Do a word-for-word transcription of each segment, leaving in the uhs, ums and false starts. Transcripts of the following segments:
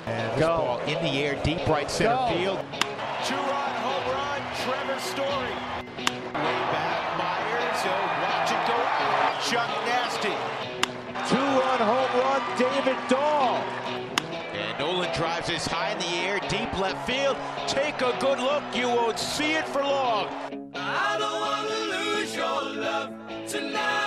And this Go. ball in the air, deep right center Go. field. Two-run home run, Trevor Story. Way back, Myers. Oh, watch it go out. Chuck Nasty. Two-run home run, David Dahl. And Nolan drives this high in the air, deep left field. Take a good look, you won't see it for long. I don't want to lose your love tonight.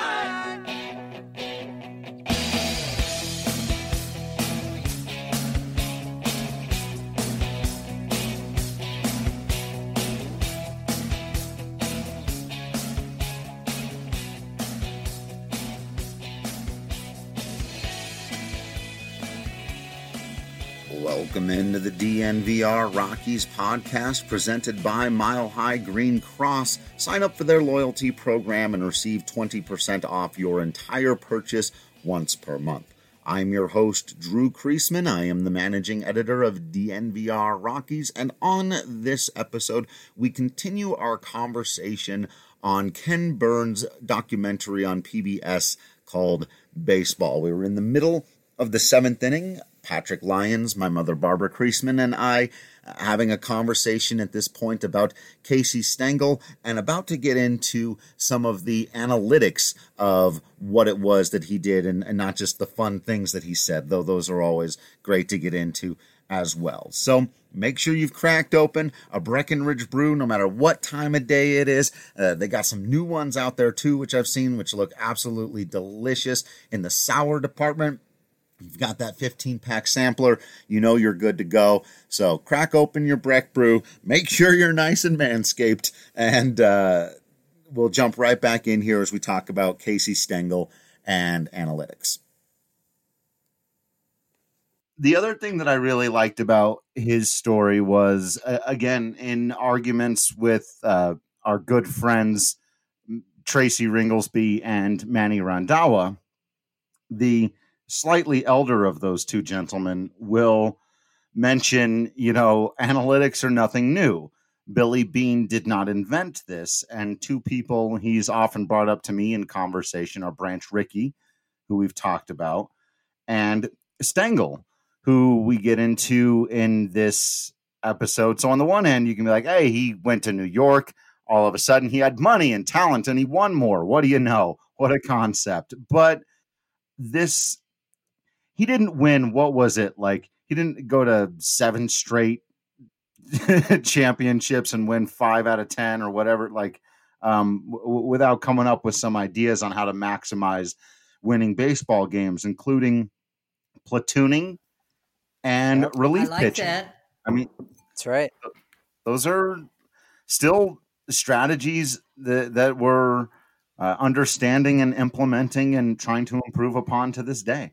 Welcome into the D N V R Rockies podcast presented by Mile High Green Cross. Sign up for their loyalty program and receive twenty percent off your entire purchase once per month. I'm your host, Drew Kreisman. I am the managing editor of D N V R Rockies, and on this episode, we continue our conversation on Ken Burns' documentary on P B S called Baseball. We were in the middle of the seventh inning. Patrick Lyons, my mother Barbara Kreisman, and I uh, having a conversation at this point about Casey Stengel and about to get into some of the analytics of what it was that he did and, and not just the fun things that he said, though those are always great to get into as well. So make sure you've cracked open a Breckenridge brew no matter what time of day it is. Uh, they got some new ones out there too, which I've seen, which look absolutely delicious in the sour department. You've got that fifteen-pack sampler, you know you're good to go. So crack open your Breck Brew, make sure you're nice and manscaped, and uh, we'll jump right back in here as we talk about Casey Stengel and analytics. The other thing that I really liked about his story was, uh, again, in arguments with uh, our good friends Tracy Ringlesby and Manny Randhawa, the slightly elder of those two gentlemen will mention, you know, analytics are nothing new. Billy Beane did not invent this. And two people he's often brought up to me in conversation are Branch Rickey, who we've talked about, and Stengel, who we get into in this episode. So on the one hand, you can be like, hey, he went to New York. All of a sudden he had money and talent and he won more. What do you know? What a concept. But this... He didn't win, what was it, like, he didn't go to seven straight championships and win five out of ten or whatever, like, um, w- without coming up with some ideas on how to maximize winning baseball games, including platooning and Yep. relief I like pitching. that. I mean, that's right. Those are still strategies that, that we're uh, understanding and implementing and trying to improve upon to this day.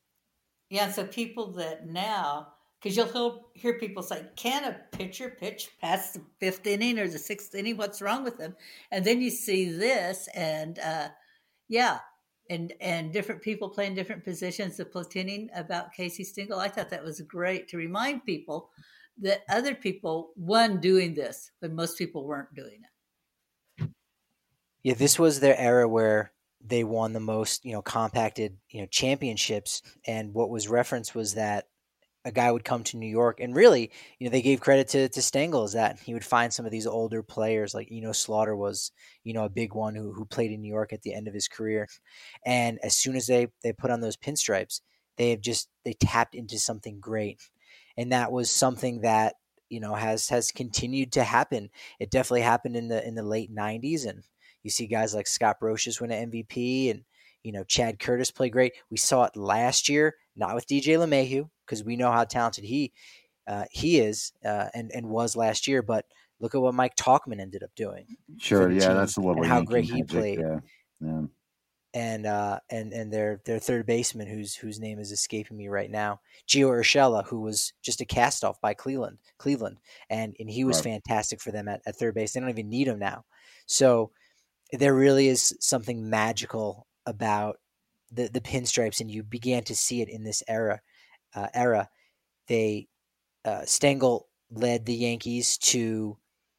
Yeah, so people that now, because you'll hear people say, can a pitcher pitch past the fifth inning or the sixth inning? What's wrong with them? And then you see this, and uh, yeah, and and different people playing different positions, the platooning about Casey Stengel. I thought that was great to remind people that other people won doing this when most people weren't doing it. Yeah, this was their era where they won the most, you know, compacted, you know, championships. And what was referenced was that a guy would come to New York, and really, you know, they gave credit to, to Stengel is that he would find some of these older players, like, you know, Slaughter was, you know, a big one who, who played in New York at the end of his career. And as soon as they, they put on those pinstripes, they have just, they tapped into something great. And that was something that, you know, has, has continued to happen. It definitely happened in the, in the late nineties. And you see guys like Scott Brocious win an M V P, and, you know, Chad Curtis play great. We saw it last year, not with D J LeMahieu, because we know how talented he uh, he is uh, and, and was last year. But look at what Mike Tauchman ended up doing. Sure, yeah, that's a little and how Yankee great he magic, played. Yeah, yeah. And uh, and and their their third baseman, whose whose name is escaping me right now, Gio Urshela, who was just a cast off by Cleveland, Cleveland, and and he was Right. fantastic for them at, at third base. They don't even need him now. So there really is something magical about the the pinstripes, and you began to see it in this era. Uh, era, they uh, Stengel led the Yankees to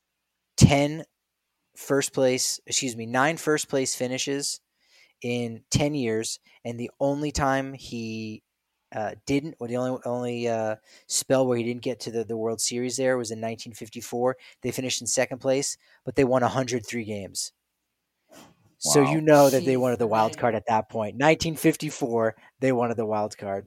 ten first place, excuse me, nine first place finishes in ten years, and the only time he uh, didn't, or the only only uh, spell where he didn't get to the, the World Series there was in nineteen fifty-four. They finished in second place, but they won one hundred three games. So Wow. you know that they Jeez, wanted the wild right. card at that point. nineteen fifty-four, they wanted the wild card.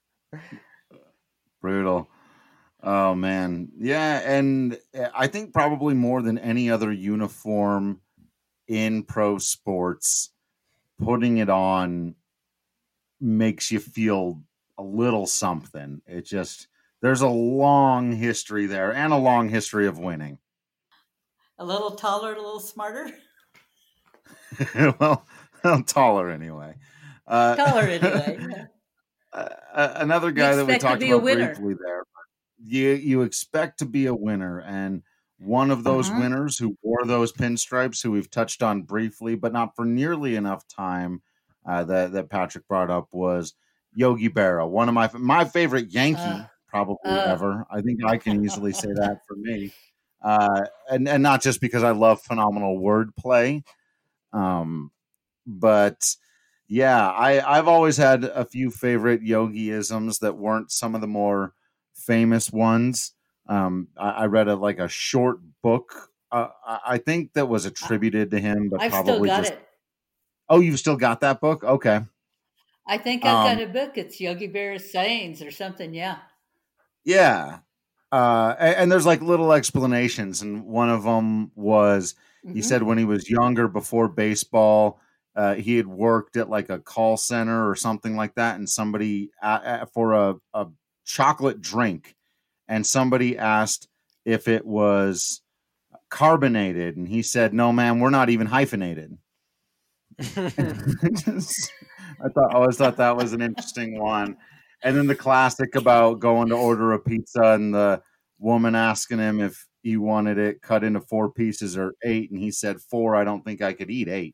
Brutal. Oh man. Yeah, and I think probably more than any other uniform in pro sports, putting it on makes you feel a little something. It just, there's a long history there and a long history of winning. A little taller, a little smarter. well, taller anyway. Uh, Taller anyway. Yeah. uh, another guy that we expect to talked be a about winner. briefly there. You you expect to be a winner, and one of those Uh-huh. winners who wore those pinstripes, who we've touched on briefly, but not for nearly enough time, uh, that that Patrick brought up, was Yogi Berra, one of my my favorite Yankee Uh, probably uh. ever. I think I can easily say that for me, uh, and and not just because I love phenomenal wordplay, um, but. Yeah, I, I've always had a few favorite Yogi-isms that weren't some of the more famous ones. Um, I, I read a, like a short book, uh, I, I think that was attributed to him, but I've still probably got just. it. Oh, you've still got that book? Okay. I think I've Um, got a book. It's Yogi Berra's sayings or something. Yeah. Yeah. Uh, and, and there's like little explanations. And one of them was, he Mhm. said when he was younger, before baseball, uh, he had worked at like a call center or something like that. And somebody uh, uh, for a, a chocolate drink, and somebody asked if it was carbonated. And he said, no, man, we're not even hyphenated. I thought, I always thought that was an interesting one. And then the classic about going to order a pizza and the woman asking him if he wanted it cut into four pieces or eight. And he said, four, I don't think I could eat eight.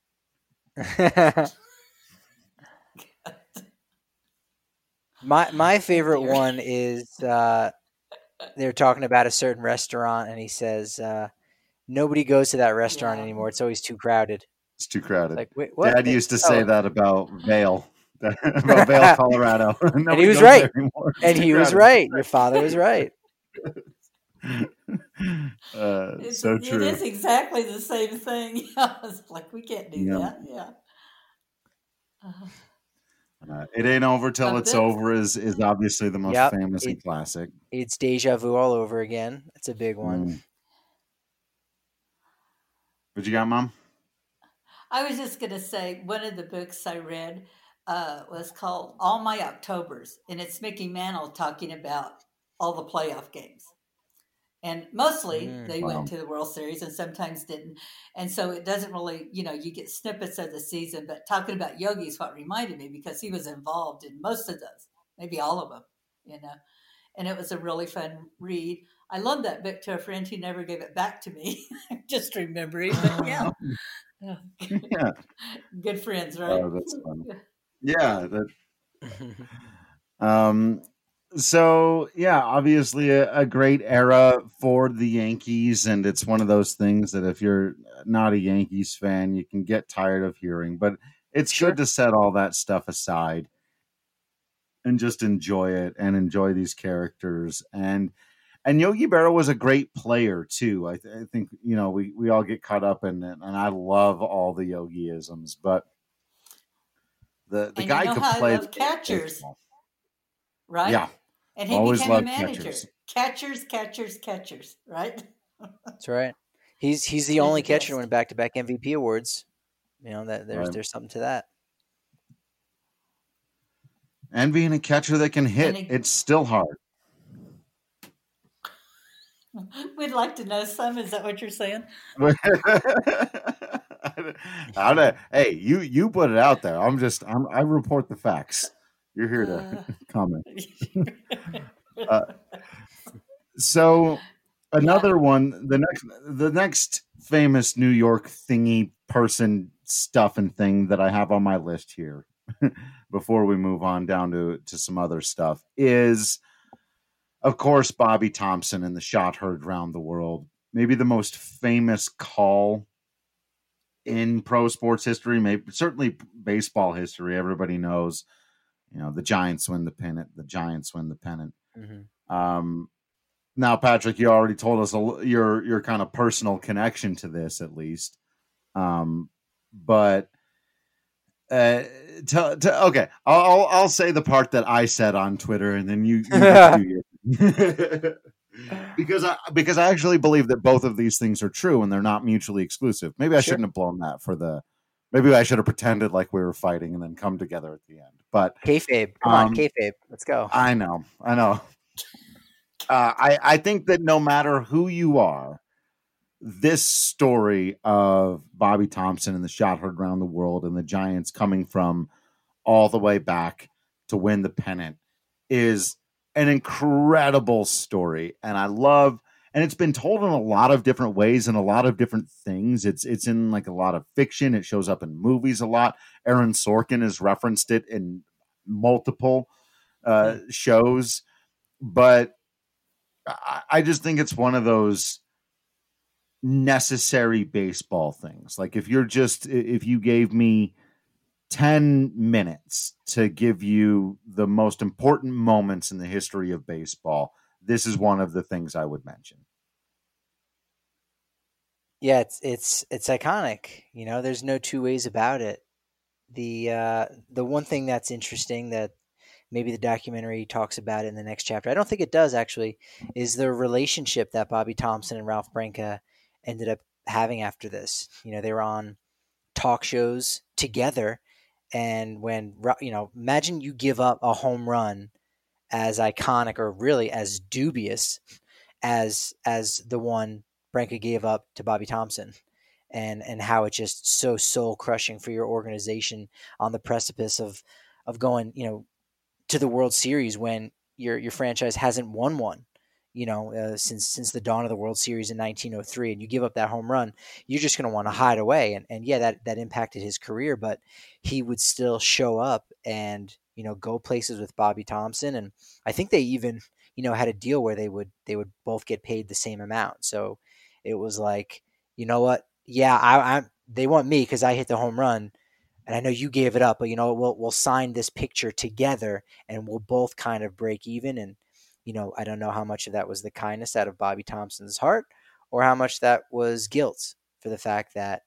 my my favorite dear. one is uh, they're talking about a certain restaurant, and he says, uh, "Nobody goes to that restaurant Yeah. anymore. It's always too crowded." It's too crowded. Like, wait, what? Dad They- used to say oh. that about Vail, about Vail, Colorado. And he was right. And he was right. Your father was right. uh, It's, so it true. is exactly the same thing. It's like, we can't do Yeah. that. Yeah. Uh, Uh, it ain't over till But it's this- over is is obviously the most Yep, famous and it- classic. It's deja vu all over again. That's a big one. Mm. What you got, Mom? I was just going to say, one of the books I read uh, was called All My Octobers, and it's Mickey Mantle talking about all the playoff games. And mostly Mm, they wow. went to the World Series and sometimes didn't. And so it doesn't really, you know, you get snippets of the season, but talking about Yogi is what reminded me, because he was involved in most of those, maybe all of them, you know. And it was a really fun read. I loaned that book to a friend who never gave it back to me. Just remembering, but yeah. Yeah. Good friends, right? Oh, that's fun. Yeah. That, um. So yeah, obviously a, a great era for the Yankees, and it's one of those things that if you're not a Yankees fan, you can get tired of hearing. But it's Sure. good to set all that stuff aside and just enjoy it and enjoy these characters. And and Yogi Berra was a great player too. I, th- I think you know we we all get caught up in it, and I love all the Yogi-isms, but the the And guy you know could how I play love catchers, baseball. right? Yeah. And he Always became a loved manager. catchers. Catchers, catchers, catchers, right? That's right. He's he's the He's only the catcher to best. win back to back M V P awards. You know that there's Right. there's something to that. And being a catcher that can hit, And he- it's still hard. We'd like to know some. Is that what you're saying? How to, hey, you you put it out there. I'm just I'm, I report the facts. You're here to Uh, comment. Uh, So another one, the next the next famous New York thingy person stuff and thing that I have on my list here before we move on down to, to some other stuff is, of course, Bobby Thompson and the shot heard round the world. Maybe the most famous call in pro sports history, maybe certainly baseball history. Everybody knows You know, the Giants win the pennant. The Giants win the pennant. Mm-hmm. Um, now, Patrick, you already told us a, your your kind of personal connection to this, at least. Um, but uh, to, to, okay, I'll I'll say the part that I said on Twitter, and then you, you get to do your because I because I actually believe that both of these things are true and they're not mutually exclusive. Maybe I Sure. shouldn't have blown that for the. Maybe I should have pretended like we were fighting and then come together at the end. But kayfabe, come um, on, kayfabe, let's go. I know, I know. Uh, I I think that no matter who you are, this story of Bobby Thompson and the shot heard around the world and the Giants coming from all the way back to win the pennant is an incredible story. And I love, and it's been told in a lot of different ways and a lot of different things. It's, it's in like a lot of fiction. It shows up in movies a lot. Aaron Sorkin has referenced it in multiple uh, shows, but I, I just think it's one of those necessary baseball things. Like if you're just, if you gave me ten minutes to give you the most important moments in the history of baseball, this is one of the things I would mention. Yeah, it's it's it's iconic. You know, there's no two ways about it. The uh, the one thing that's interesting that maybe the documentary talks about it in the next chapter, I don't think it does actually, is the relationship that Bobby Thompson and Ralph Branca ended up having after this. You know, they were on talk shows together. And when, you know, imagine you give up a home run as iconic or really as dubious as as the one Branca gave up to Bobby Thompson, and and how it's just so soul crushing for your organization on the precipice of of going, you know, to the World Series when your your franchise hasn't won one, you know, uh, since since the dawn of the World Series in nineteen oh three, and you give up that home run, you're just going to want to hide away. And and yeah, that that impacted his career, but he would still show up and, you know, go places with Bobby Thompson. And I think they even, you know, had a deal where they would they would both get paid the same amount. So it was like, you know what? Yeah, I, I'm. They want me because I hit the home run, and I know you gave it up. But you know, we'll we'll sign this picture together, and we'll both kind of break even. And you know, I don't know how much of that was the kindness out of Bobby Thompson's heart, or how much that was guilt for the fact that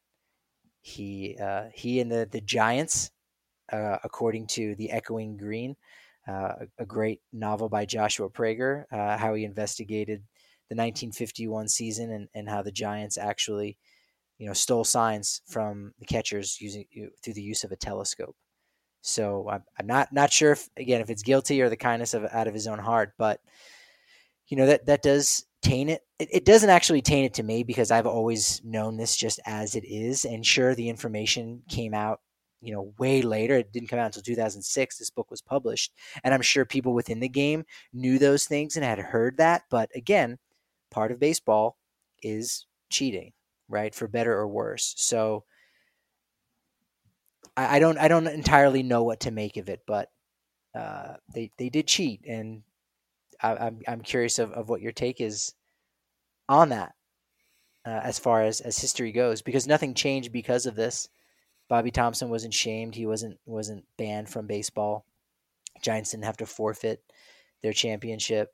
he uh, he and the the Giants, uh, according to the Echoing Green, uh, a, a great novel by Joshua Prager, uh, how he investigated the nineteen fifty-one season and, and how the Giants actually, you know, stole signs from the catchers using through the use of a telescope. So I'm, I'm not not sure if, again, if it's guilty or the kindness of out of his own heart, but you know, that that does taint it. it. It doesn't actually taint it to me because I've always known this just as it is. And sure, the information came out, you know, way later. It didn't come out until two thousand six. This book was published, and I'm sure people within the game knew those things and had heard that. But again, part of baseball is cheating, right? For better or worse. So I, I don't I don't entirely know what to make of it, but uh, they they did cheat, and I, I'm I'm curious of, of what your take is on that uh, as far as, as history goes, because nothing changed because of this. Bobby Thompson wasn't shamed. He wasn't wasn't banned from baseball. Giants didn't have to forfeit their championship.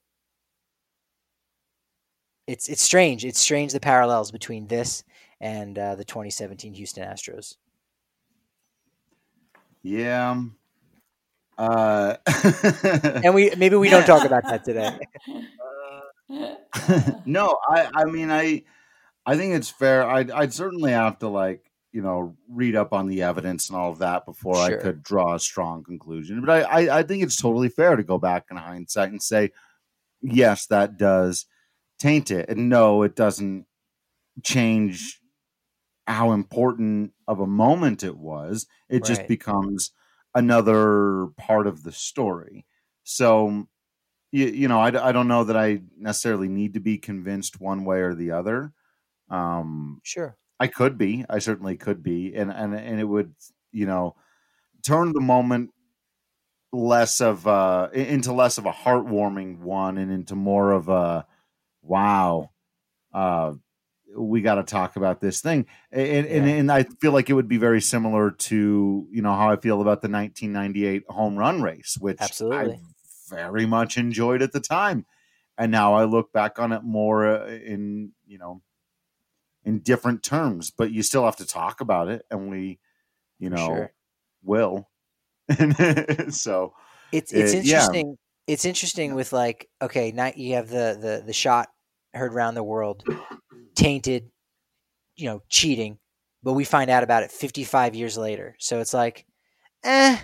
It's it's strange. It's strange the parallels between this and uh, the twenty seventeen Houston Astros. Yeah. Uh, and we maybe we don't talk about that today. uh, no, I I mean I I think it's fair. I'd I'd certainly have to like, you know, read up on the evidence and all of that before sure. I could draw a strong conclusion. But I, I I think it's totally fair to go back in hindsight and say, yes, that does taint it. And no, it doesn't change how important of a moment it was. It right. just becomes another part of the story. So, you, you know, I, I don't know that I necessarily need to be convinced one way or the other. Um, sure. I could be, I certainly could be. And, and, and it would, you know, turn the moment less of uh into less of a heartwarming one and into more of a, wow, uh, we got to talk about this thing. And, Yeah. and and I feel like it would be very similar to, you know, how I feel about the nineteen ninety-eight home run race, which Absolutely. I very much enjoyed at the time. And now I look back on it more uh, in, you know, in different terms, but you still have to talk about it. And we, you know, sure. will. So it's it's it, interesting. Yeah. It's interesting with like, okay, now you have the, the, the shot heard around the world, tainted, you know, cheating, but we find out about it fifty-five years later. So it's like, eh,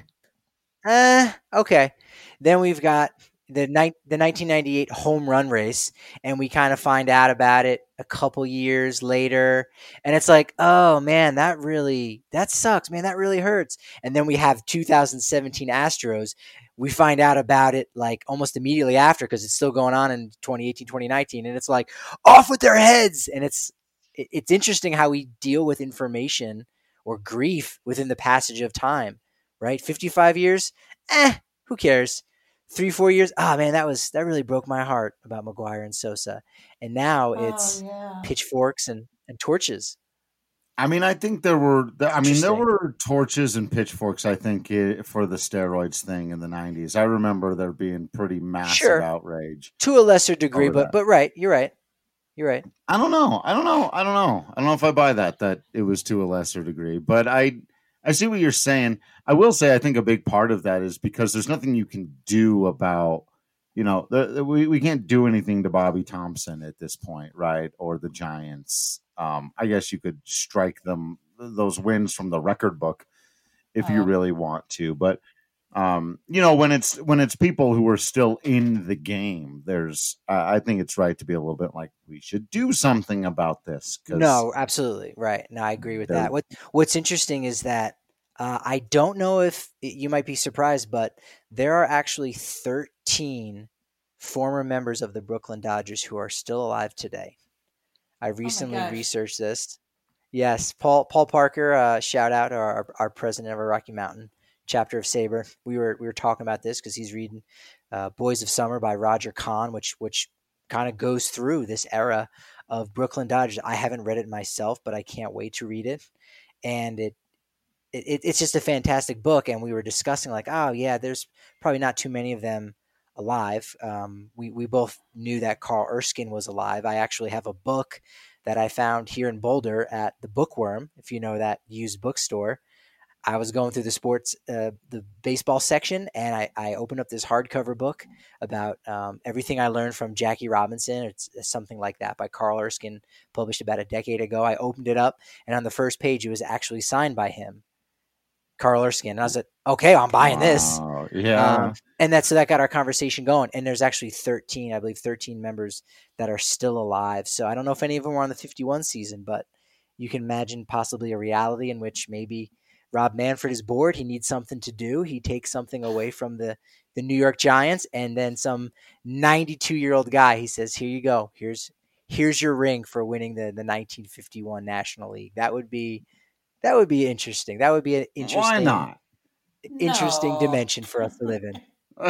eh, okay. Then we've got the ni- the nineteen ninety-eight home run race, and we kind of find out about it a couple years later, and it's like, oh man, that really, that sucks, man, that really hurts. And then we have two thousand seventeen Astros. We find out about it like almost immediately after, because it's still going on in twenty eighteen, twenty nineteen, and it's like, off with their heads. And it's it, it's interesting how we deal with information or grief within the passage of time, right? fifty-five years, eh, who cares? Three, four years, ah, oh, man, that was that really broke my heart about McGwire and Sosa. And now it's oh, yeah. pitchforks and, and torches. I mean, I think there were, I mean, there were torches and pitchforks, I think, for the steroids thing in the nineties. I remember there being pretty massive sure. outrage. To a lesser degree, but that. but right, you're right. You're right. I don't know. I don't know. I don't know. I don't know if I buy that, that it was to a lesser degree. But I I see what you're saying. I will say I think a big part of that is because there's nothing you can do about, you know, the, the, we, we can't do anything to Bobby Thompson at this point, right? Or the Giants. Um, I guess you could strike them, those wins from the record book if Oh. you really want to. But, um, you know, when it's when it's people who are still in the game, there's uh, I think it's right to be a little bit like, we should do something about this. 'Cause no, absolutely. Right. No, I agree with that. What What's interesting is that uh, I don't know if you might be surprised, but there are actually thirteen former members of the Brooklyn Dodgers who are still alive today. I recently gosh. researched this. Yes, Paul Paul Parker, uh, shout out our our president of our Rocky Mountain chapter of Sabre. We were we were talking about this because he's reading uh, Boys of Summer by Roger Kahn, which which kind of goes through this era of Brooklyn Dodgers. I haven't read it myself, but I can't wait to read it. And it, it it's just a fantastic book. And we were discussing like, oh yeah, there's probably not too many of them alive. Um, we, we both knew that Carl Erskine was alive. I actually have a book that I found here in Boulder at the Bookworm, if you know that used bookstore. I was going through the sports, uh, the baseball section, and I, I opened up this hardcover book about um, everything I learned from Jackie Robinson. It's, it's something like that by Carl Erskine, published about a decade ago. I opened it up, and on the first page, it was actually signed by him, Carl Erskine. And I was like, okay, I'm buying this. Wow, yeah. Um, and that, so that got our conversation going. And there's actually thirteen, I believe thirteen members that are still alive. So I don't know if any of them were on the fifty-one season, but you can imagine possibly a reality in which maybe Rob Manfred is bored. He needs something to do. He takes something away from the, the New York Giants, and then some ninety-two-year-old guy, he says, here you go. Here's here's your ring for winning the, the nineteen fifty-one National League. That would be that would be interesting. That would be an interesting Why not? interesting No. dimension for us to live in.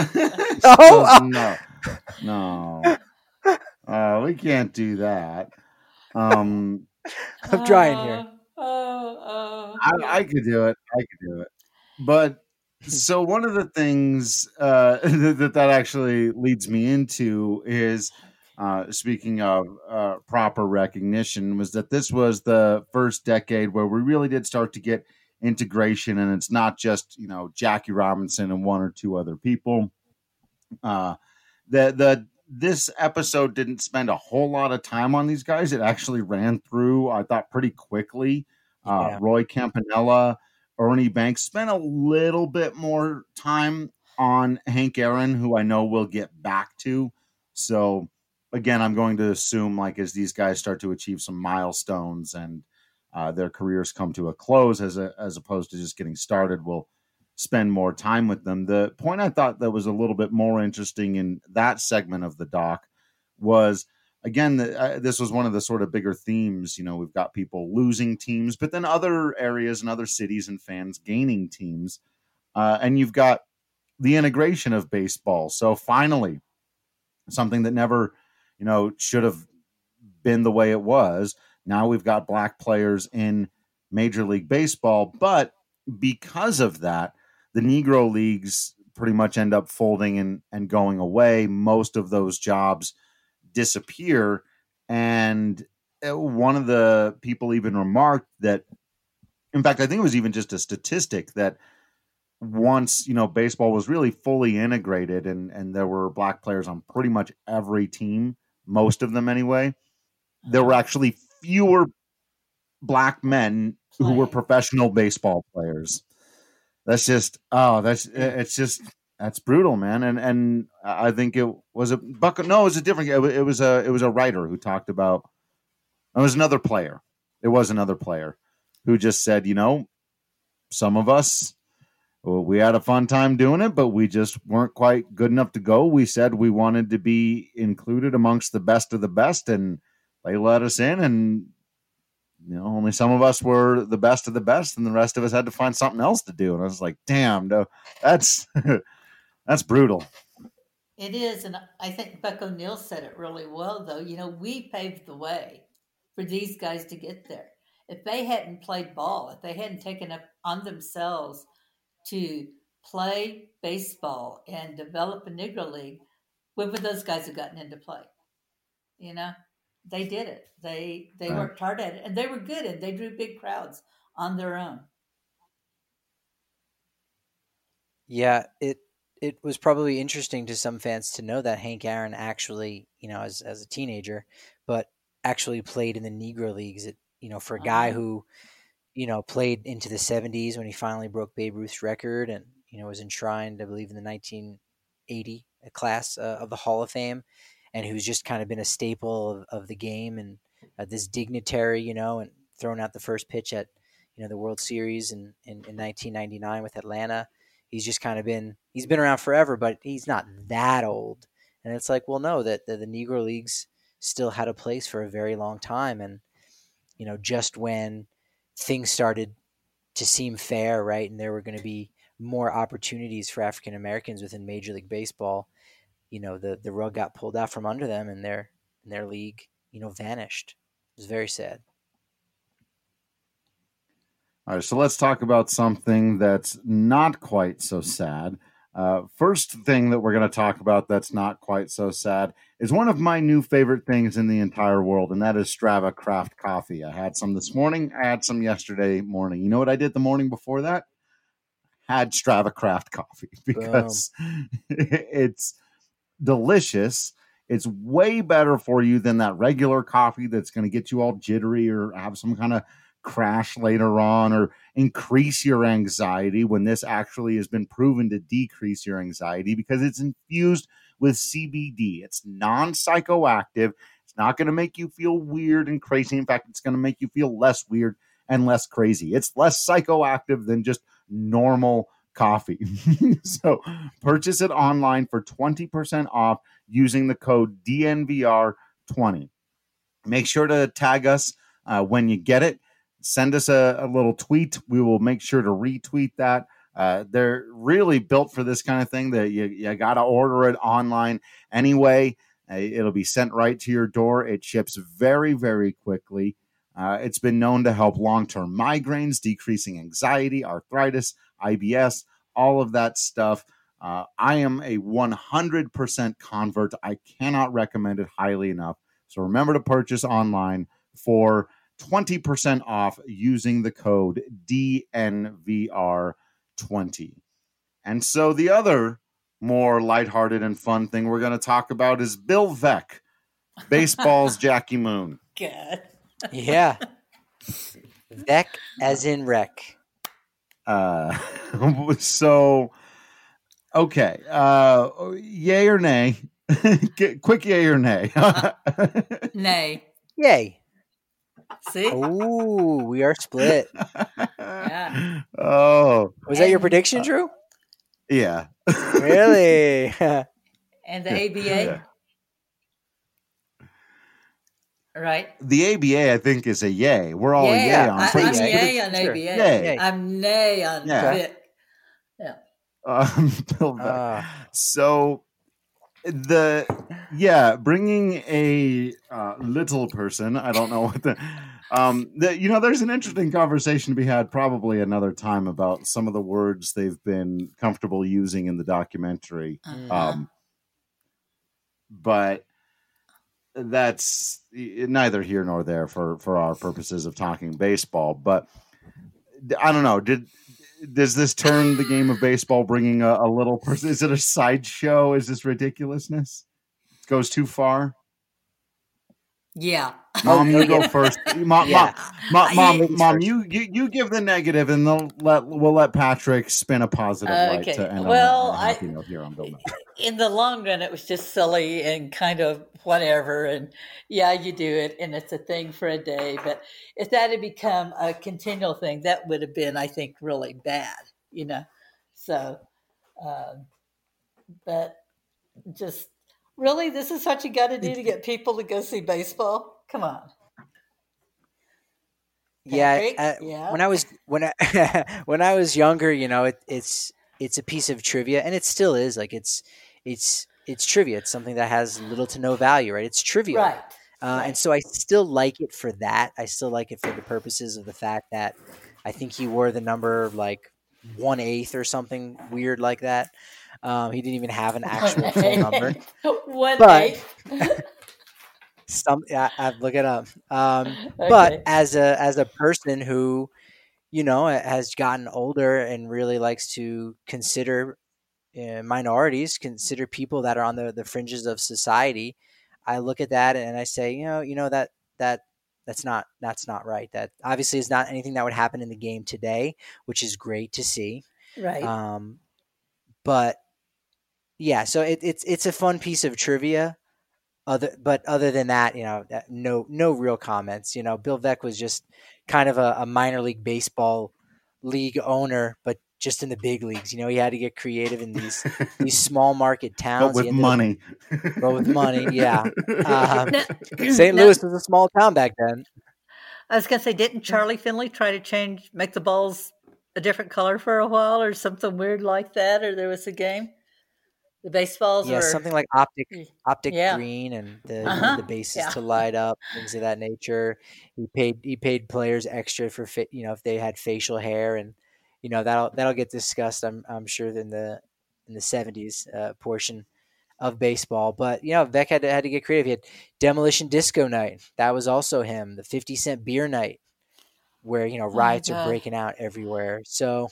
oh, no. No. Uh, we can't do that. Um, I'm trying here. Oh, oh, I, I could do it. I could do it. But so one of the things uh, that that actually leads me into is, uh, speaking of uh, proper recognition, was that this was the first decade where we really did start to get integration, and it's not just, you know, Jackie Robinson and one or two other people. Uh, the the this episode didn't spend a whole lot of time on these guys. It actually ran through, I thought, pretty quickly. Uh, Yeah. Roy Campanella, Ernie Banks, spent a little bit more time on Hank Aaron, who I know we'll get back to. So again, I'm going to assume, like, as these guys start to achieve some milestones and uh, their careers come to a close, as a, as opposed to just getting started, we'll spend more time with them. The point I thought that was a little bit more interesting in that segment of the doc was, again, the, uh, this was one of the sort of bigger themes. You know, we've got people losing teams, but then other areas and other cities and fans gaining teams. Uh, and you've got the integration of baseball. So finally, something that never, you know, should have been the way it was. Now we've got black players in Major League Baseball, but because of that, the Negro leagues pretty much end up folding and, and going away. Most of those jobs disappear. And one of the people even remarked that, in fact, I think it was even just a statistic that once, you know, baseball was really fully integrated and, and there were black players on pretty much every team, most of them anyway, there were actually fewer black men who were professional baseball players. That's just, oh, that's, it's just, that's brutal, man. And, and I think it was a Buck. No, it was a different, it was a, it was a writer who talked about, it was another player. It was another player who just said, you know, some of us, well, we had a fun time doing it, but we just weren't quite good enough to go. We said we wanted to be included amongst the best of the best, and they let us in, and you know, only some of us were the best of the best, and the rest of us had to find something else to do. And I was like, damn, no, that's that's brutal. It is, and I think Buck O'Neil said it really well, though. You know, we paved the way for these guys to get there. If they hadn't played ball, if they hadn't taken up on themselves to play baseball and develop a Negro League, when would those guys have gotten into play? You know, they did it. They they right. worked hard at it, and they were good, and they drew big crowds on their own. Yeah, it it was probably interesting to some fans to know that Hank Aaron actually, you know, as as a teenager, but actually played in the Negro Leagues. It, you know, for a guy uh-huh. who, you know, played into the seventies when he finally broke Babe Ruth's record, and you know was enshrined, I believe, in the nineteen eighty class uh, of the Hall of Fame, and who's just kind of been a staple of, of the game, and uh, this dignitary, you know, and thrown out the first pitch at, you know, the World Series in, in, in nineteen ninety-nine with Atlanta. He's just kind of been, he's been around forever, but he's not that old. And it's like, well, no, that the, the Negro Leagues still had a place for a very long time. And, you know, just when things started to seem fair, right, and there were going to be more opportunities for African Americans within Major League Baseball, you know, the, the rug got pulled out from under them, and their and their league, you know, vanished. It was very sad. All right, so let's talk about something that's not quite so sad. Uh, first thing that we're going to talk about that's not quite so sad is one of my new favorite things in the entire world, and that is Strava Craft Coffee. I had some this morning. I had some yesterday morning. You know what I did the morning before that? Had Strava Craft Coffee because it's delicious. It's way better for you than that regular coffee that's going to get you all jittery or have some kind of crash later on or increase your anxiety, when this actually has been proven to decrease your anxiety because it's infused with C B D. It's non-psychoactive. It's not going to make you feel weird and crazy. In fact, it's going to make you feel less weird and less crazy. It's less psychoactive than just normal coffee. So purchase it online for twenty percent off using the code D N V R twenty. Make sure to tag us uh, when you get it. Send us a, a little tweet. We will make sure to retweet that. Uh, they're really built for this kind of thing that you, you got to order it online anyway. Uh, it'll be sent right to your door. It ships very, very quickly. Uh, it's been known to help long-term migraines, decreasing anxiety, arthritis, I B S, all of that stuff. Uh, I am a one hundred percent convert. I cannot recommend it highly enough. So remember to purchase online for twenty percent off using the code D N V R twenty. And so the other more lighthearted and fun thing we're going to talk about is Bill Veeck, baseball's Jackie Moon. God. Yeah. Veeck as in wreck. Uh, so, okay. Uh, yay or nay? Quick yay or nay? Nay. Yay. See? Oh, we are split. Yeah. Oh. Was that your prediction, Drew? Yeah. Really? And the A B A? Right. The A B A, I think, is a yay. We're all yay. a yay on. I, I'm yay, yay on A B A. Yay. I'm nay on yeah. Vic. Yeah. Um, Bill Veeck. Uh. So the yeah, bringing a uh, little person. I don't know what the Um, the, you know, there's an interesting conversation to be had probably another time about some of the words they've been comfortable using in the documentary. Uh-huh. Um, but that's neither here nor there for, for our purposes of talking baseball. But I don't know. Did does this turn the game of baseball, bringing a, a little person? Is it a sideshow? Is this ridiculousness? It goes too far. Yeah. Mom, you go first. Mom, Yeah. mom, mom, mom, Ladies mom first. you, you you give the negative, and they'll let we'll let Patrick spin a positive light Okay. to end Well, on a, on a happy I- note here on Bill Mack. In the long run, it was just silly and kind of whatever. And yeah, you do it, and it's a thing for a day. But if that had become a continual thing, that would have been, I think, really bad, you know. So, um, but just really, this is what you got to do to get people to go see baseball. Come on. Yeah, Patrick? uh, Yeah. when I was when I when I was younger, you know, it, it's it's a piece of trivia, and it still is. Like it's it's it's trivia. It's something that has little to no value, right? It's trivia, Right. uh, right. and so I still like it for that. I still like it for the purposes of the fact that I think he wore the number like one eighth or something weird like that. Um, he didn't even have an actual full number. One But- eighth. Some I, I'd look it up. Um, But Okay. as a as a person who, you know, has gotten older and really likes to consider uh, minorities, consider people that are on the, the fringes of society, I look at that and I say, you know, you know that that that's not that's not right. That obviously is not anything that would happen in the game today, which is great to see. Right. Um, but yeah, so it, it's it's a fun piece of trivia. Other, but other than that, you know, that- no, no real comments. You know, Bill Veeck was just kind of a, a minor league baseball league owner, but just in the big leagues. You know, he had to get creative in these these small market towns. But He with ended up- money. but with money, yeah. Um, Now- Saint now- Louis was a small town back then. I was gonna say, didn't Charlie Finley try to change, make the balls a different color for a while, or something weird like that? Or there was a game, the baseballs Yeah, were something like optic optic Yeah. green and the Uh-huh, the bases yeah. to light up, things of that nature. He paid he paid players extra for fa- you know if they had facial hair, and you know that'll that'll get discussed. I'm I'm sure in the in the seventies uh, portion of baseball. But you know Veeck had to, had to get creative. He had Demolition Disco Night. That was also him. The fifty cent beer night, where you know my riots are God. breaking out everywhere. So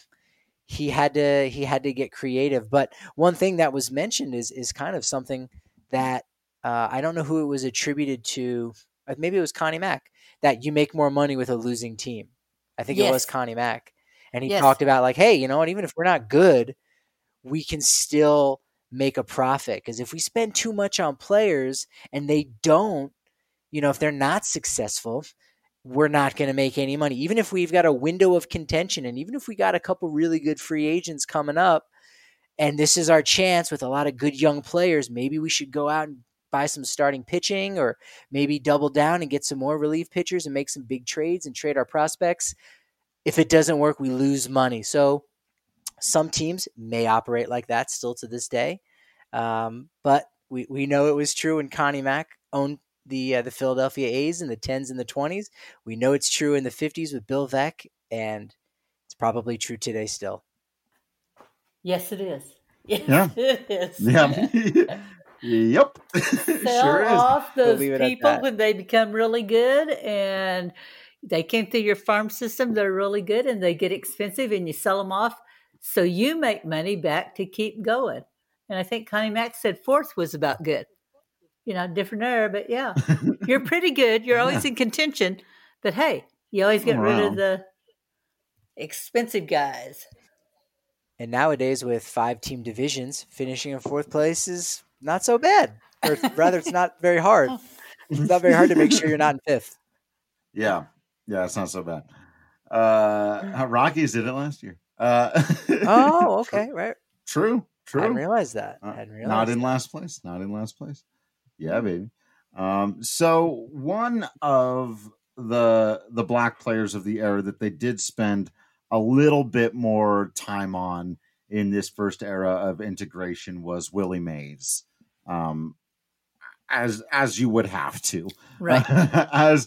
he had to he had to get creative. But one thing that was mentioned is is kind of something that uh, I don't know who it was attributed to. uh, Maybe it was Connie Mack, that you make more money with a losing team. I think it was Yes. Connie Mack, and he Yes. talked about like, hey, you know what? Even if we're not good, we can still make a profit, because if we spend too much on players and they don't, you know, if they're not successful, we're not going to make any money. Even if we've got a window of contention, and even if we got a couple really good free agents coming up, and this is our chance with a lot of good young players, maybe we should go out and buy some starting pitching, or maybe double down and get some more relief pitchers and make some big trades and trade our prospects. If it doesn't work, we lose money. So some teams may operate like that still to this day. Um, but we, we know it was true when Connie Mack owned the uh, the Philadelphia A's in the tens and the twenties. We know it's true in the fifties with Bill Veeck, and it's probably true today still. Yes, it is. Yes, Yeah. it is. Yeah. Yep. Sell Sure is. off those leave it at people that. when they become really good, and they came through your farm system. They're really good, and they get expensive, and you sell them off, so you make money back to keep going. And I think Connie Mack said fourth was about good. You know, different era, but yeah, you're pretty good. You're always in contention, but hey, you always get rid Wow. of the expensive guys. And nowadays, with five team divisions, finishing in fourth place is not so bad. Or rather, it's not very hard. It's not very hard to make sure you're not in fifth. Yeah. Yeah, it's not so bad. Uh, Rockies did it last year. Uh, Oh, okay, right. True. True. I didn't realize that. Uh, I didn't realize not in that. last place. Not in last place. Yeah, baby. Um, so one of the the black players of the era that they did spend a little bit more time on in this first era of integration was Willie Mays. Um, as as you would have to, Right. uh, as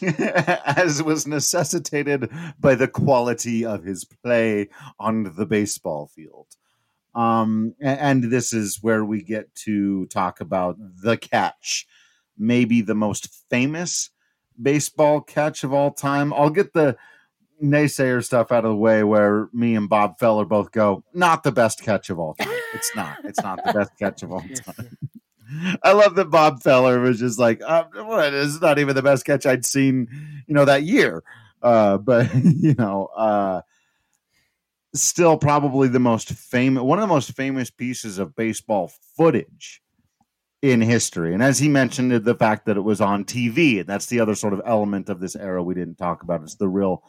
as was necessitated by the quality of his play on the baseball field. Um, and, and this is where we get to talk about the catch, maybe the most famous baseball catch of all time. I'll get the naysayer stuff out of the way, where me and Bob Feller both go, not the best catch of all time. It's not. It's not the best catch of all time. I love that Bob Feller was just like, uh, what? It's not even the best catch I'd seen, you know, that year. Uh, but you know, uh, still probably the most famous, one of the most famous pieces of baseball footage in history. And as he mentioned, the fact that it was on T V, and that's the other sort of element of this era we didn't talk about. It's the real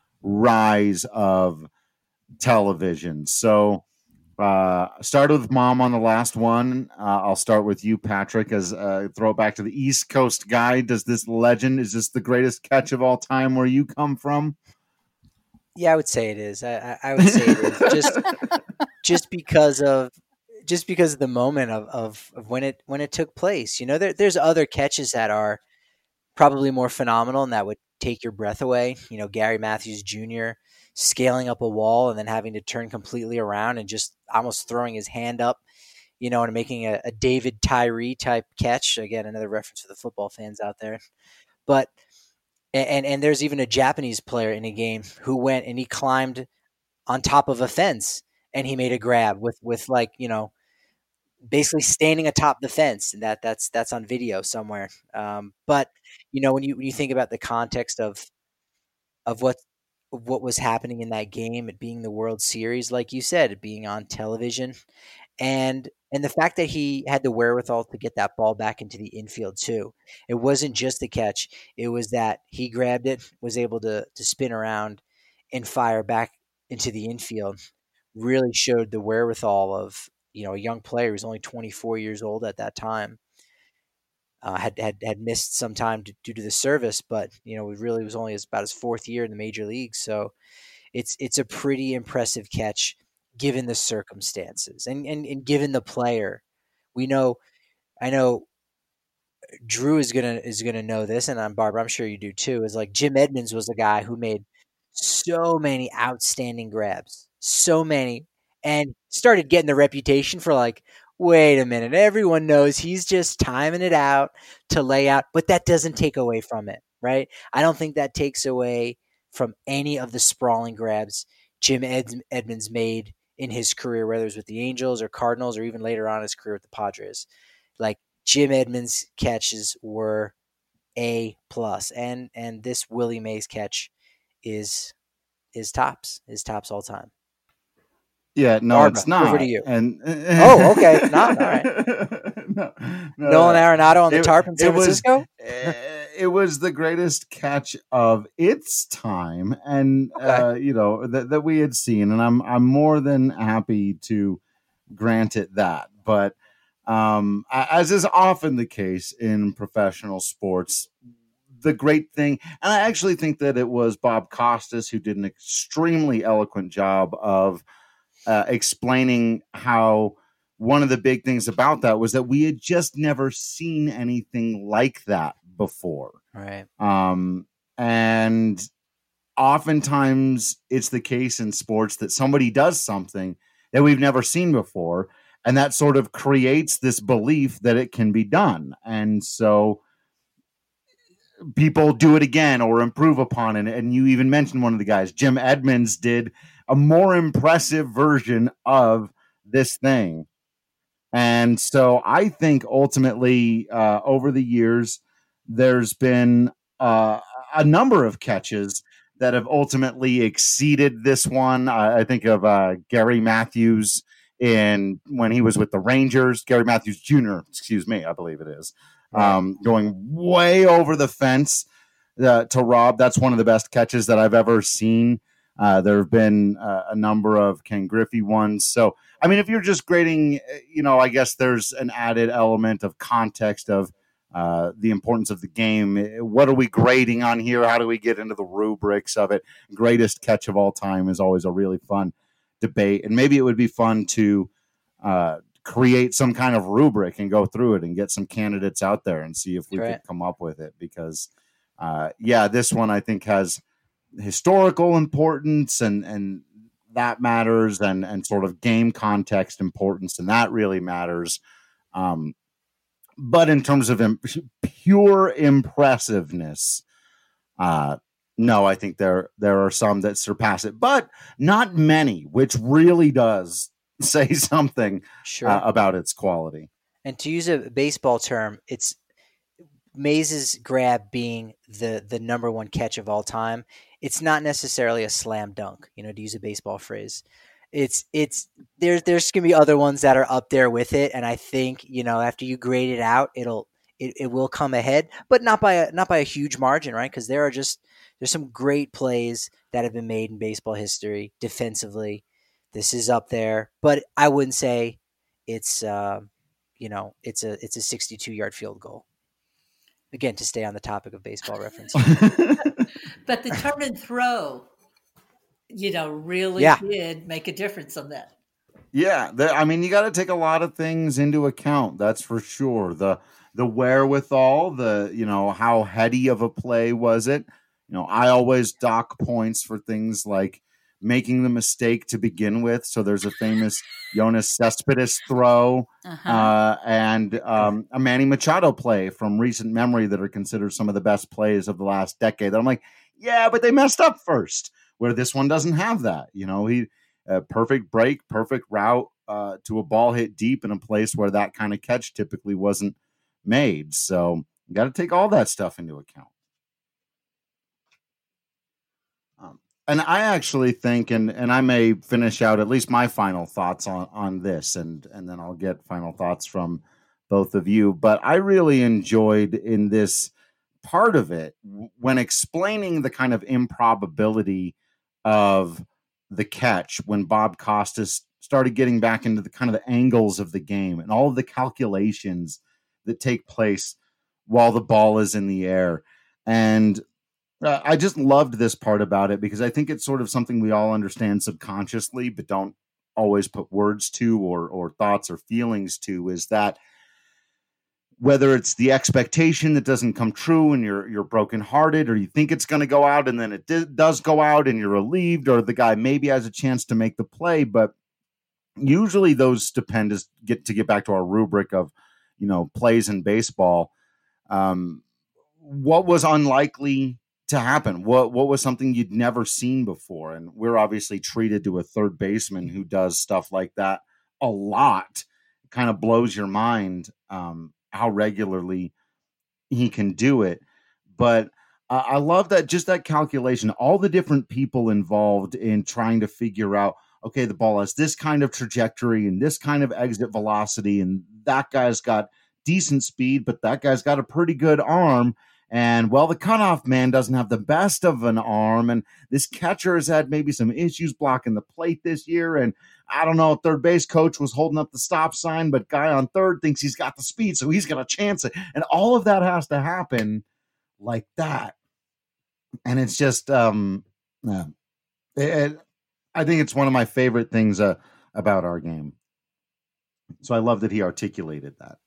rise of television. So uh started with Mom on the last one. uh, I'll start with you, Patrick, as uh throw it back to the East Coast guy. Does this legend, is this the greatest catch of all time where you come from? Yeah, I would say it is. I, I, I would say it is just just because of just because of the moment of, of, of when it when it took place. You know, there, there's other catches that are probably more phenomenal and that would take your breath away. You know, Gary Matthews Junior scaling up a wall and then having to turn completely around and just almost throwing his hand up, you know, and making a, a David Tyree type catch. Again, another reference for the football fans out there. But and and there's even a Japanese player in a game who went and he climbed on top of a fence and he made a grab with with like, you know, basically standing atop the fence, and that that's that's on video somewhere. Um, but you know, when you when you think about the context of of what of what was happening in that game, it being the World Series, like you said, it being on television, and and the fact that he had the wherewithal to get that ball back into the infield too. It wasn't just the catch; it was that he grabbed it, was able to to spin around and fire back into the infield. Really showed the wherewithal of, you know, a young player who was only twenty-four years old at that time. Uh, had, had had missed some time to, due to the service, but you know, it really was only his, about his fourth year in the major leagues. So it's it's a pretty impressive catch given the circumstances and, and, and given the player. We know, I know Drew is gonna is gonna know this, and I'm Barbara, I'm sure you do too. Is like Jim Edmonds was a guy who made so many outstanding grabs, so many, and started getting the reputation for like, wait a minute, everyone knows he's just timing it out to lay out, but that doesn't take away from it, right? I don't think that takes away from any of the sprawling grabs Jim Ed- Edmonds made in his career, whether it was with the Angels or Cardinals or even later on in his career with the Padres. Like, Jim Edmonds' catches were A plus, and and this Willie Mays catch is is tops, is tops all time. Yeah, no, Barbara, it's not. Over to you. And oh, okay, not all right. no, no, Nolan Arenado on the it, tarp in San it was, Francisco. It was the greatest catch of its time, and Okay. uh, you know that that we had seen, and I'm I'm more than happy to grant it that. But um, as is often the case in professional sports, the great thing, and I actually think that it was Bob Costas who did an extremely eloquent job of uh, explaining how one of the big things about that was that we had just never seen anything like that before. Right. Um, and oftentimes it's the case in sports that somebody does something that we've never seen before, and that sort of creates this belief that it can be done. And so people do it again or improve upon it. And you even mentioned one of the guys, Jim Edmonds, did a more impressive version of this thing. And so I think ultimately uh, over the years, there's been uh, a number of catches that have ultimately exceeded this one. Uh, I think of uh, Gary Matthews in when he was with the Rangers, Gary Matthews Junior, excuse me, I believe it is, um, going way over the fence uh, to Rob. That's one of the best catches that I've ever seen. Uh, there have been uh, a number of Ken Griffey ones. So, I mean, if you're just grading, you know, I guess there's an added element of context of uh, the importance of the game. What are we grading on here? How do we get into the rubrics of it? Greatest catch of all time is always a really fun debate. And maybe it would be fun to uh, create some kind of rubric and go through it and get some candidates out there and see if we Right. could come up with it. Because, uh, yeah, this one I think has historical importance and, and that matters, and, and sort of game context importance, and that really matters. Um, but in terms of imp- pure impressiveness, uh, no, I think there there are some that surpass it, but not many, which really does say something Sure. uh, about its quality. And to use a baseball term, it's Maze's grab being the the number one catch of all time. It's not necessarily a slam dunk, you know, to use a baseball phrase. It's it's there's there's gonna be other ones that are up there with it, and I think, you know, after you grade it out, it'll it, it will come ahead, but not by a not by a huge margin, right? Because there are just there's some great plays that have been made in baseball history defensively. This is up there, but I wouldn't say it's uh, you know it's a it's a sixty-two yard field goal. Again, to stay on the topic of baseball reference. But the turn and throw, you know, really Yeah. did make a difference on that. Yeah, the, I mean, you got to take a lot of things into account. That's for sure. The the wherewithal, the you know, how heady of a play was it? You know, I always dock points for things like making the mistake to begin with. So there's a famous Jonas Cespedes throw Uh-huh. uh, and um, a Manny Machado play from recent memory that are considered some of the best plays of the last decade. That I'm like, yeah, but they messed up first. Where this one doesn't have that. You know, he a perfect break, perfect route uh, to a ball hit deep in a place where that kind of catch typically wasn't made. So you got to take all that stuff into account. Um, and I actually think, and and I may finish out at least my final thoughts on, on this, and and then I'll get final thoughts from both of you. But I really enjoyed in this part of it when explaining the kind of improbability of the catch, when Bob Costas started getting back into the kind of the angles of the game and all of the calculations that take place while the ball is in the air. And uh, I just loved this part about it because I think it's sort of something we all understand subconsciously, but don't always put words to or, or thoughts or feelings to, is that whether it's the expectation that doesn't come true and you're you're brokenhearted, or you think it's going to go out and then it di- does go out and you're relieved, or the guy maybe has a chance to make the play, but usually those stupendous get to get back to our rubric of, you know, plays in baseball. Um, what was unlikely to happen? What what was something you'd never seen before? And we're obviously treated to a third baseman who does stuff like that a lot. It kind of blows your mind. Um, how regularly he can do it. But uh, I love that, just that calculation, all the different people involved in trying to figure out, okay, the ball has this kind of trajectory and this kind of exit velocity, and that guy's got decent speed, but that guy's got a pretty good arm. And well, the cutoff man doesn't have the best of an arm, and this catcher has had maybe some issues blocking the plate this year. And I don't know, third base coach was holding up the stop sign, but guy on third thinks he's got the speed, so he's going to chance it. And all of that has to happen like that. And it's just, um, yeah, it, it, I think it's one of my favorite things uh, about our game. So I love that he articulated that.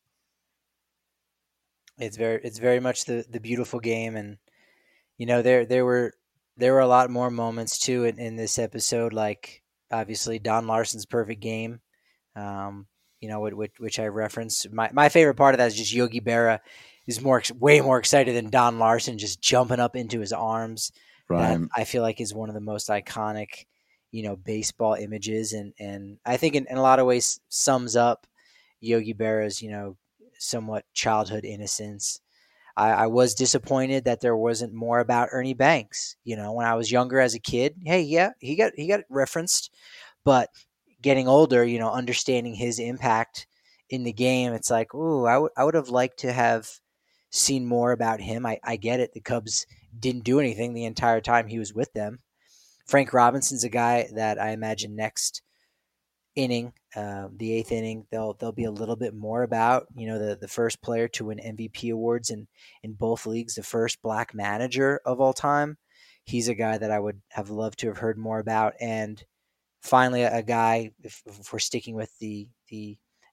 It's very it's very much the, the beautiful game, and you know there there were there were a lot more moments too in, in this episode, like obviously Don Larson's perfect game, um, you know, which, which I referenced. My my favorite part of that is just Yogi Berra is more way more excited than Don Larson, just jumping up into his arms. Right. That I feel like is one of the most iconic, you know, baseball images, and and I think in, in a lot of ways sums up Yogi Berra's, you know, somewhat childhood innocence. I, I was disappointed that there wasn't more about Ernie Banks. You know, when I was younger as a kid, hey, yeah, he got he got referenced, but getting older, you know, understanding his impact in the game, it's like, ooh, I would I would have liked to have seen more about him. I, I get it. The Cubs didn't do anything the entire time he was with them. Frank Robinson's a guy that I imagine next inning, uh, the eighth inning, they'll they'll be a little bit more about, you know, the, the first player to win M V P awards in, in both leagues, the first black manager of all time. He's a guy that I would have loved to have heard more about. And finally, a, a guy, if, if we're sticking with the the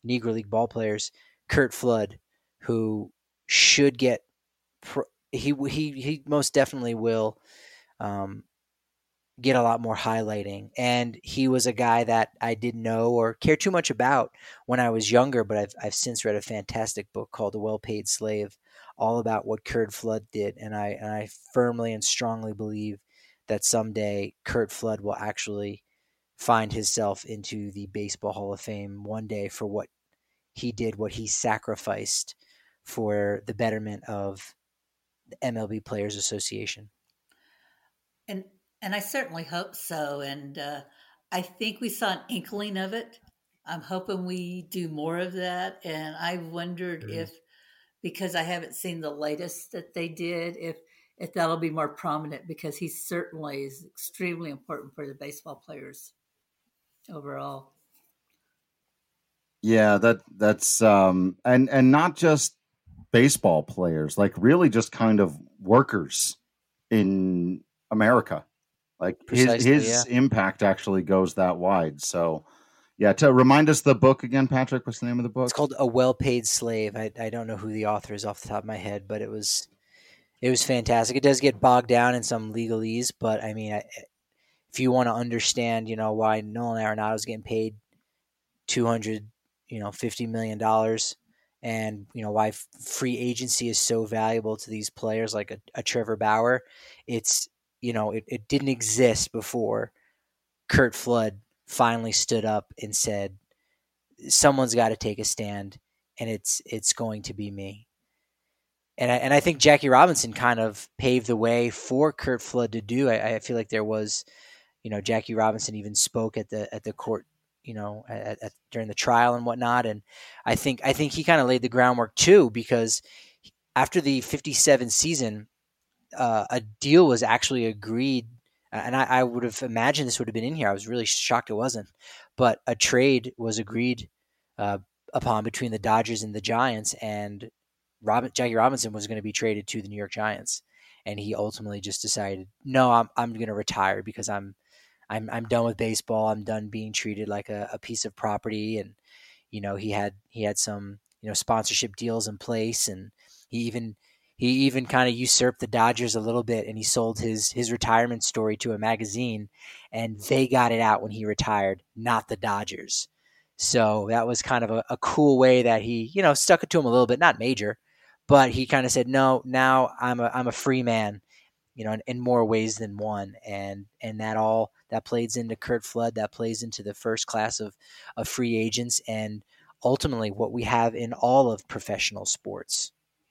Negro League ball players, Curt Flood, who should get pro- he he he most definitely will um, get a lot more highlighting. And he was a guy that I didn't know or care too much about when I was younger, but I've I've since read a fantastic book called The Well-Paid Slave, all about what Curt Flood did, and I and I firmly and strongly believe that someday Curt Flood will actually find himself into the Baseball Hall of Fame one day for what he did, what he sacrificed for the betterment of the M L B Players Association. And and I certainly hope so. And uh, I think we saw an inkling of it. I'm hoping we do more of that. And I wondered mm-hmm. if, because I haven't seen the latest that they did, if if that'll be more prominent, because he certainly is extremely important for the baseball players overall. Yeah, that that's um and and not just baseball players, like really just kind of workers in America. Like Precisely, his his yeah. impact actually goes that wide. So yeah, to remind us the book again, Patrick, what's the name of the book? It's called A Well-Paid Slave. I I don't know who the author is off the top of my head, but it was it was fantastic. It does get bogged down in some legalese, but I mean, I, if you want to understand, you know, why Nolan Arenado is getting paid two hundred, you know, fifty million dollars, and you know why free agency is so valuable to these players like a, a Trevor Bauer, it's you know it, it didn't exist before Curt Flood finally stood up and said, someone's got to take a stand, and it's it's going to be me. And I, and I think Jackie Robinson kind of paved the way for Curt Flood to do. I, I feel like there was, you know, Jackie Robinson even spoke at the at the court, you know, at, at, during the trial and whatnot. And I think I think he kind of laid the groundwork too, because after the fifty-seven season, uh, a deal was actually agreed. And I, I would have imagined this would have been in here. I was really shocked it wasn't. But a trade was agreed uh, upon between the Dodgers and the Giants, and Robin, Jackie Robinson was going to be traded to the New York Giants. And he ultimately just decided, no, I'm I'm going to retire because I'm I'm I'm done with baseball. I'm done being treated like a, a piece of property. And you know, he had he had some you know sponsorship deals in place, and he even he even kind of usurped the Dodgers a little bit, and he sold his his retirement story to a magazine, and they got it out when he retired, not the Dodgers. So that was kind of a, a cool way that he you know stuck it to him a little bit, not major, but he kind of said, no, now I'm a I'm a free man, you know, in, in more ways than one. And and that all that plays into Curt Flood, that plays into the first class of, of free agents, and ultimately what we have in all of professional sports.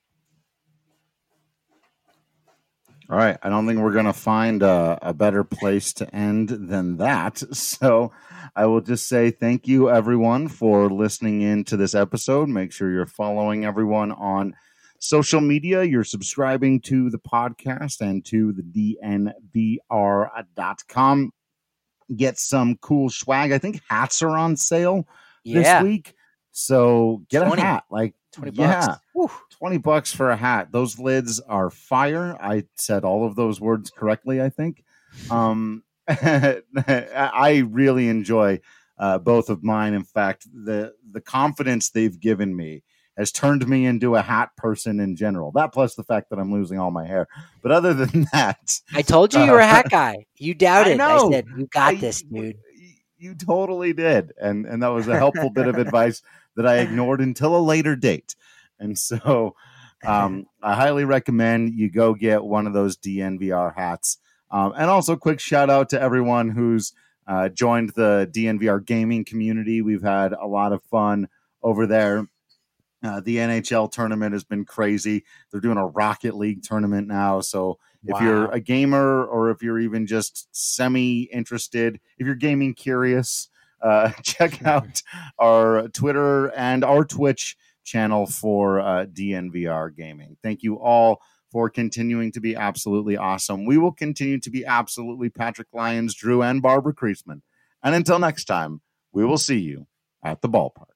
All right. I don't think we're going to find a, a better place to end than that. So I will just say thank you, everyone, for listening in to this episode. Make sure you're following everyone on social media. You're subscribing to the podcast and to the D N V R dot com. Get some cool swag. I think hats are on sale yeah. this week. So get twenty a hat. Like twenty bucks. Yeah. Whew. twenty bucks for a hat. Those lids are fire. I said all of those words correctly, I think. Um, I really enjoy uh, both of mine. In fact, the the confidence they've given me has turned me into a hat person in general. That plus the fact that I'm losing all my hair. But other than that, I told you you were a hat guy. You doubted. I, know. I said, you got I, this, dude. You totally did. And, and that was a helpful bit of advice that I ignored until a later date. And so um, I highly recommend you go get one of those D N V R hats. Um, and also quick shout out to everyone who's uh, joined the D N V R gaming community. We've had a lot of fun over there. Uh, the N H L tournament has been crazy. They're doing a Rocket League tournament now. So if wow. you're a gamer, or if you're even just semi-interested, if you're gaming curious, uh, check out our Twitter and our Twitch channel for uh, D N V R Gaming. Thank you all for continuing to be absolutely awesome. We will continue to be absolutely Patrick Lyons, Drew, and Barbara Kreisman. And until next time, we will see you at the ballpark.